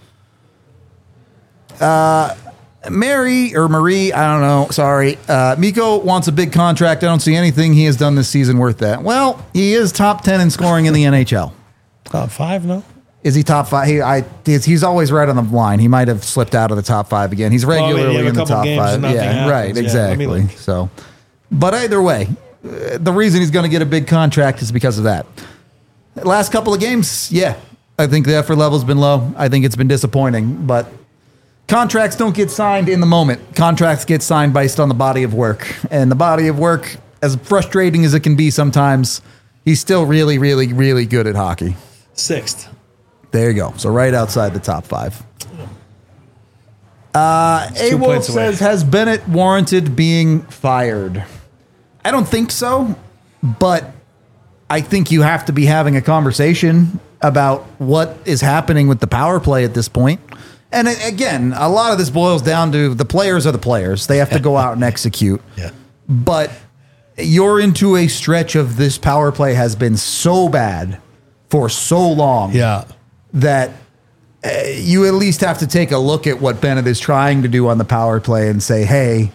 Uh, Mary or Marie, I don't know. Sorry. Uh, Mikko wants a big contract. I don't see anything he has done this season worth that. Well, he is top ten in scoring in the N H L. Top five, no? Is he top five? He, I, he's, he's always right on the line. He might have slipped out of the top five again. He's Well, I mean, regularly you have a in the couple top games five. and nothing Yeah, happens. right, Yeah, let me exactly. look. So, but either way, uh, the reason he's going to get a big contract is because of that. Last couple of games, yeah, I think the effort level's been low. I think it's been disappointing, but contracts don't get signed in the moment. Contracts get signed based on the body of work, and the body of work, as frustrating as it can be sometimes, he's still really, really, really good at hockey. Sixth. There you go. So right outside the top five. Uh, It's two A Wolf points away. says, has Bennett warranted being fired? I don't think so, but I think you have to be having a conversation about what is happening with the power play at this point. And a- again, a lot of this boils down to the players are the players. They have to go out and execute. Yeah. But you're into a stretch of this power play has been so bad for so long. Yeah. That uh, you at least have to take a look at what Bennett is trying to do on the power play and say, hey,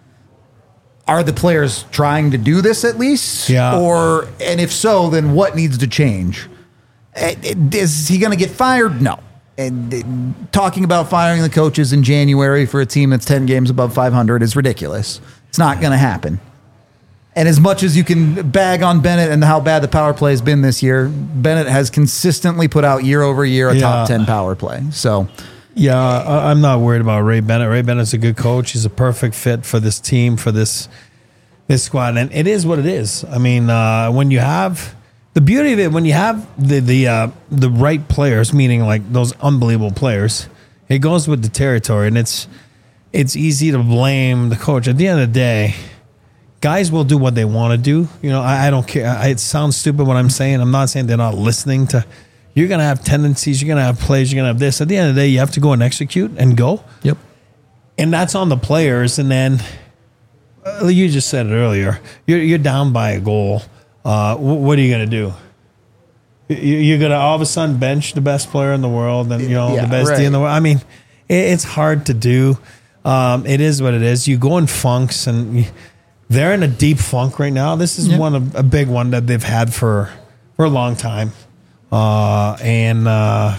are the players trying to do this at least? Yeah. Or, and if so, then what needs to change? Uh, Is he going to get fired? No. And uh, talking about firing the coaches in January for a team that's ten games above five hundred is ridiculous. It's not going to happen. And as much as you can bag on Bennett and how bad the power play has been this year, Bennett has consistently put out year over year a Yeah. top ten power play. So, Yeah, I- I'm not worried about Ray Bennett. Ray Bennett's a good coach. He's a perfect fit for this team, for this this squad, and it is what it is. I mean, uh, when you have the beauty of it, when you have the the uh, the right players, meaning like those unbelievable players, it goes with the territory, and it's it's easy to blame the coach. At the end of the day, guys will do what they want to do. You know, I, I don't care. I, it sounds stupid what I'm saying. I'm not saying they're not listening to. You're going to have tendencies. You're going to have plays. You're going to have this. At the end of the day, you have to go and execute and go. Yep. And that's on the players. And then uh, you just said it earlier. You're, you're down by a goal. Uh, wh- what are you going to do? You, you're going to all of a sudden bench the best player in the world and, you know, Yeah, the best right. D in the world. I mean, it, it's hard to do. Um, it is what it is. You go in funks, and you, they're in a deep funk right now. This is Yep. one of a big one that they've had for for a long time. Uh, and uh,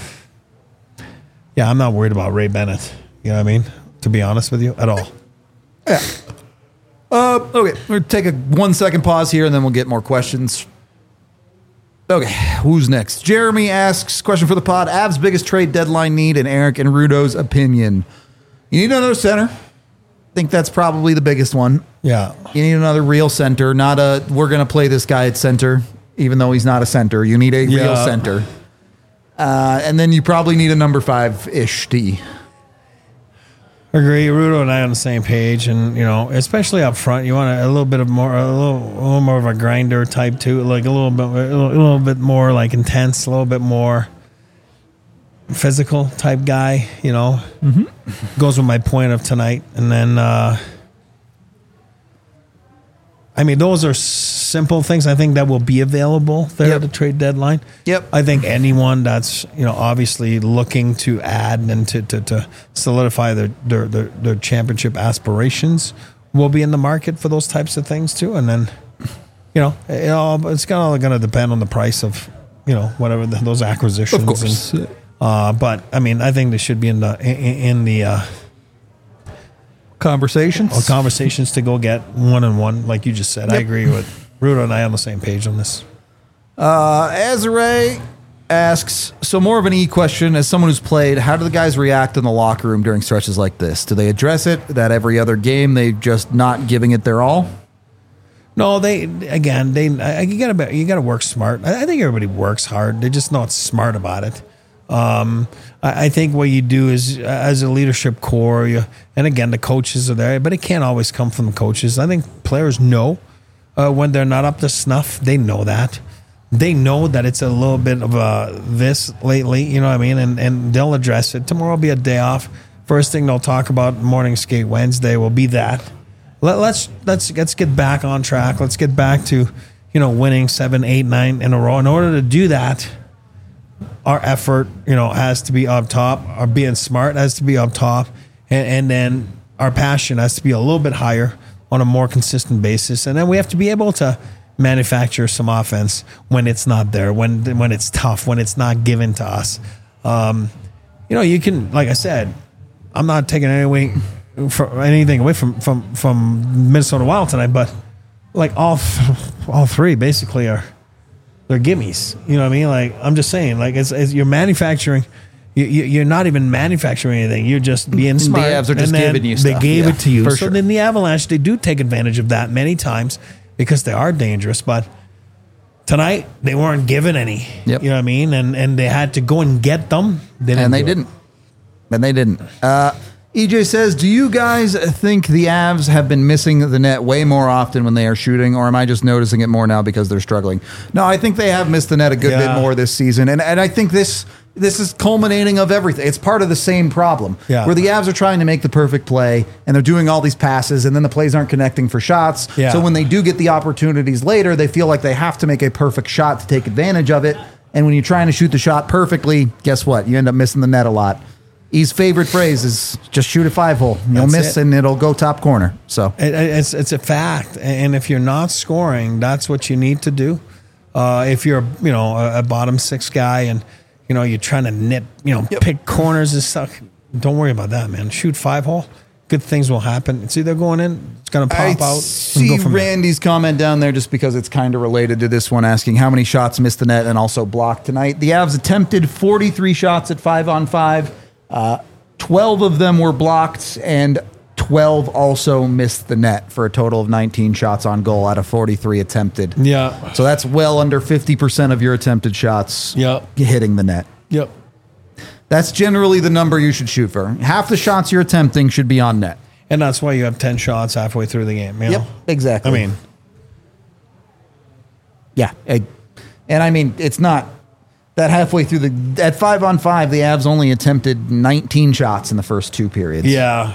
yeah, I'm not worried about Ray Bennett. You know what I mean? To be honest with you, at all. yeah. Uh, okay, we'll take a one second pause here, and then we'll get more questions. Okay, who's next? Jeremy asks, question for the pod, Avs' biggest trade deadline need in Eric and Rudo's opinion. You need another center. I think that's probably the biggest one. Yeah. You need another real center, not a, we're going to play this guy at center, even though he's not a center. You need a real Yeah. center. Uh, and then you probably need a number five-ish D. Agree. Rudo and I on the same page, and you know, especially up front, you want a, a little bit of more, a little, a little more of a grinder type too, like a little bit, a little, a little bit more like intense, a little bit more physical type guy. You know, mm-hmm. Goes with my point of tonight, and then. uh I mean, those are simple things I think that will be available there Yep. at the trade deadline. Yep. I think anyone that's, you know, obviously looking to add and to, to, to solidify their, their, their, their championship aspirations will be in the market for those types of things too. And then, you know, it all, it's all going to depend on the price of, you know, whatever the, those acquisitions. Of course. And, uh, but, I mean, I think they should be in the, in, in the, uh, Conversations? Or conversations to go get one and one, like you just said. I Yep. agree with Rudo and I on the same page on this. Uh, Azare asks, so more of an E question. As someone who's played, how do the guys react in the locker room during stretches like this? Do they address it that every other game they just not giving it their all? No, they again they I- you gotta you gotta work smart. I, I think everybody works hard. They're just not smart about it. Um, I, I think what you do is uh, as a leadership core, you, and again the coaches are there, but it can't always come from the coaches. I think players know uh, when they're not up to snuff. They know that. They know that it's a little bit of a this lately. You know what I mean? And and they'll address it. Tomorrow will be a day off. First thing they'll talk about morning skate Wednesday will be that. Let, let's let's let's get back on track. Let's get back to, you know, winning seven, eight, nine in a row. In order to do that, our effort, you know, has to be up top. Our being smart has to be up top, and, and then our passion has to be a little bit higher on a more consistent basis. And then we have to be able to manufacture some offense when it's not there, when when it's tough, when it's not given to us. Um, you know, you can, like I said, I'm not taking any away from anything away from from from Minnesota Wild tonight, but like all all three basically are they're gimmies. You know what I mean? Like I'm just saying, like it's, it's you're manufacturing. You, you, you're not even manufacturing anything. You're just being smart. The Avs are just and then giving you They stuff. gave Yeah, it to you. for So sure. then the Avalanche, they do take advantage of that many times because they are dangerous. But tonight they weren't given any. Yep. You know what I mean? And and they had to go and get them. They didn't and they do it. didn't. And they didn't. Uh, E J says, do you guys think the Avs have been missing the net way more often when they are shooting, or am I just noticing it more now because they're struggling? No, I think they have missed the net a good Yeah. bit more this season. And and I think this this is culminating of everything. It's part of the same problem. Yeah. Where the Avs are trying to make the perfect play, and they're doing all these passes, and then the plays aren't connecting for shots. Yeah. So when they do get the opportunities later, they feel like they have to make a perfect shot to take advantage of it. And when you're trying to shoot the shot perfectly, guess what? You end up missing the net a lot. E's favorite phrase is just shoot a five hole. You'll That's miss it. and it'll go top corner. So It, it's it's a fact, and if you're not scoring, that's what you need to do. Uh, if you're you know a, a bottom six guy and you know you're trying to nip you know pick corners and stuff, don't worry about that, man. Shoot five hole. Good things will happen. It's either going in, it's going to pop I out. see and go from there. Randy's comment down there just because it's kind of related to this one, asking how many shots missed the net and also blocked tonight. The Avs attempted forty-three shots at five on five. Uh, twelve of them were blocked, and twelve also missed the net for a total of nineteen shots on goal out of forty-three attempted. Yeah. So that's well under fifty percent of your attempted shots Yep. hitting the net. Yep. That's generally the number you should shoot for. Half the shots you're attempting should be on net. And that's why you have ten shots halfway through the game. You Yep, know? exactly. I mean, Yeah. I- And I mean, it's not that halfway through the, at five on five, the Avs only attempted nineteen shots in the first two periods. yeah.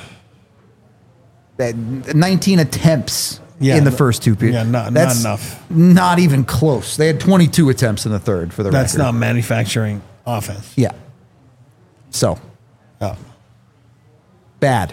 That- nineteen attempts Yeah, in the th- first two periods. yeah, not- not That's enough. Not even close. They had twenty-two attempts in the third for the That's record. not manufacturing offense. Yeah. So. Oh. Bad.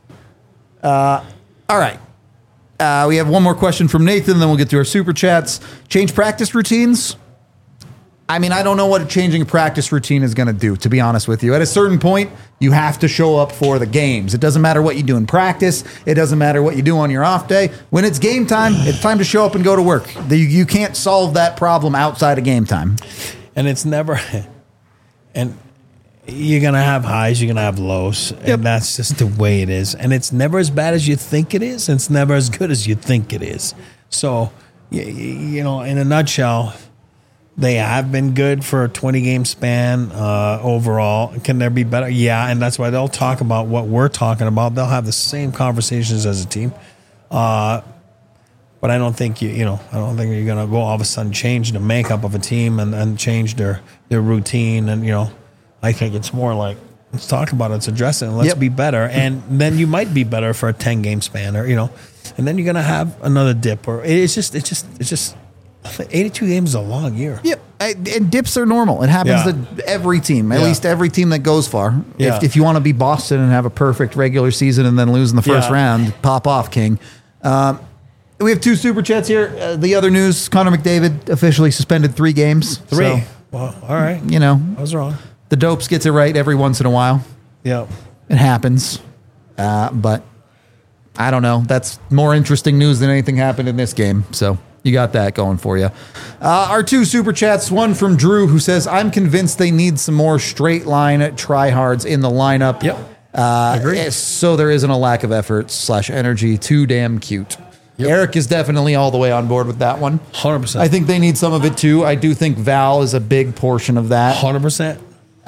Uh, all right. Uh, we have one more question from Nathan, then we'll get to our super chats. Change practice routines? I mean, I don't know what changing a practice routine is going to do, to be honest with you. At a certain point, you have to show up for the games. It doesn't matter what you do in practice. It doesn't matter what you do on your off day. When it's game time, it's time to show up and go to work. The- You can't solve that problem outside of game time. And it's never, and you're going to have highs, you're going to have lows. And that's just the way it is. And it's never as bad as you think it is. And it's never as good as you think it is. So, y- y- you know, in a nutshell, they have been good for a twenty game span uh, overall. Can there be better? Yeah. And that's why they'll talk about what we're talking about. They'll have the same conversations as a team. Uh, But I don't think you, you know, I don't think you're going to go all of a sudden change the makeup of a team and, and change their, their routine. And, you know, I think it's more like, let's talk about it, let's address it, and let's Yep. be better. And then you might be better for a ten game span or, you know, and then you're going to have another dip or it's just, it's just, it's just, eighty-two games is a long year. Yep. I- And dips are normal. It happens Yeah. to every team, at Yeah. least every team that goes far. Yeah. If, if you want to be Boston and have a perfect regular season and then lose in the first Yeah. round, pop off, King. Um, we have two super chats here. Uh, the other news, Connor McDavid officially suspended three games. Three. So, Well, all right. you know, I was wrong. the Dopes gets it right every once in a while. Yeah. It happens. Uh, but I don't know. That's more interesting news than anything happened in this game. So you got that going for you. Uh, our two super chats, one from Drew who says, I'm convinced they need some more straight line tryhards in the lineup. Yep. Uh, Agree. So there isn't a lack of effort slash energy. Too damn cute. Eric is definitely all the way on board with that one. one hundred percent. I think they need some of it too. I do think Val is a big portion of that. one hundred percent.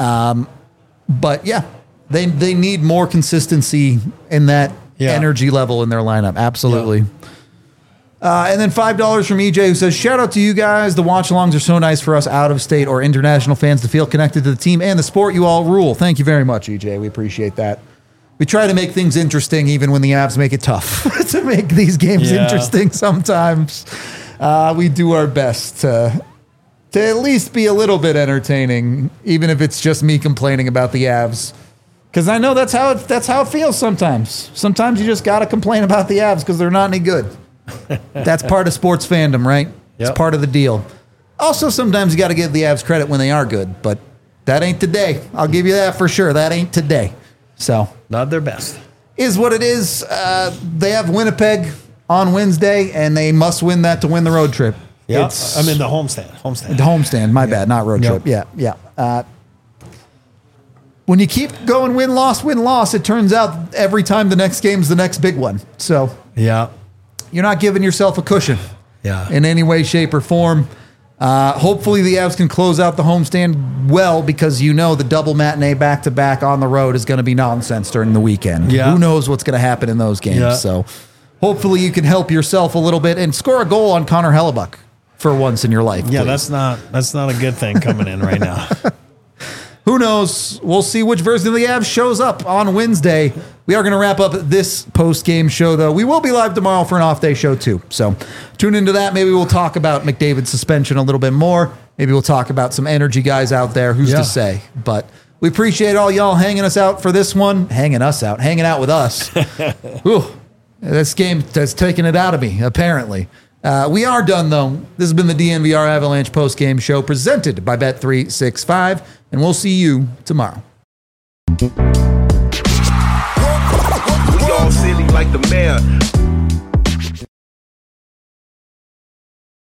But yeah, they they need more consistency in that Yeah. energy level in their lineup. Absolutely. Uh, and then five dollars from E J who says, shout out to you guys. The watch alongs are so nice for us out of state or international fans to feel connected to the team and the sport. You all rule. Thank you very much, E J. We appreciate that. We try to make things interesting even when the Avs make it tough to make these games Yeah. interesting sometimes. Uh, we do our best to, to at least be a little bit entertaining, even if it's just me complaining about the Avs. Because I know that's how it, that's how it feels sometimes. Sometimes you just got to complain about the Avs because they're not any good. That's part of sports fandom, right? It's Yep. part of the deal. Also, sometimes you got to give the Avs credit when they are good, but that ain't today. I'll give you that for sure. That ain't today. So, Not their best. is what it is. Uh, they have Winnipeg on Wednesday, and they must win that to win the road trip. Yeah. It's I mean, the homestand. Homestand. the homestand. My bad, not road Yep. trip. Yeah, yeah. Uh, when you keep going win loss win loss, it turns out every time the next game's the next big one. So Yeah. you're not giving yourself a cushion Yeah. in any way, shape, or form. Uh, hopefully the Avs can close out the homestand well because you know the double matinee back-to-back on the road is going to be nonsense during the weekend. Yeah. Who knows what's going to happen in those games. Yeah. So hopefully you can help yourself a little bit and score a goal on Connor Hellebuck for once in your life. Yeah, please. that's not that's not a good thing coming in right now. Who knows? We'll see which version of the Avs shows up on Wednesday. We are going to wrap up this post-game show, though. We will be live tomorrow for an off-day show, too. So tune into that. Maybe we'll talk about McDavid's suspension a little bit more. Maybe we'll talk about some energy guys out there. Who's Yeah. to say? But we appreciate all y'all hanging us out for this one. Hanging us out. Hanging out with us. Ooh, this game has taken it out of me, apparently. Uh, we are done, though. This has been the D N V R Avalanche post-game show presented by Bet three sixty-five, and we'll see you tomorrow. We all silly like the mayor.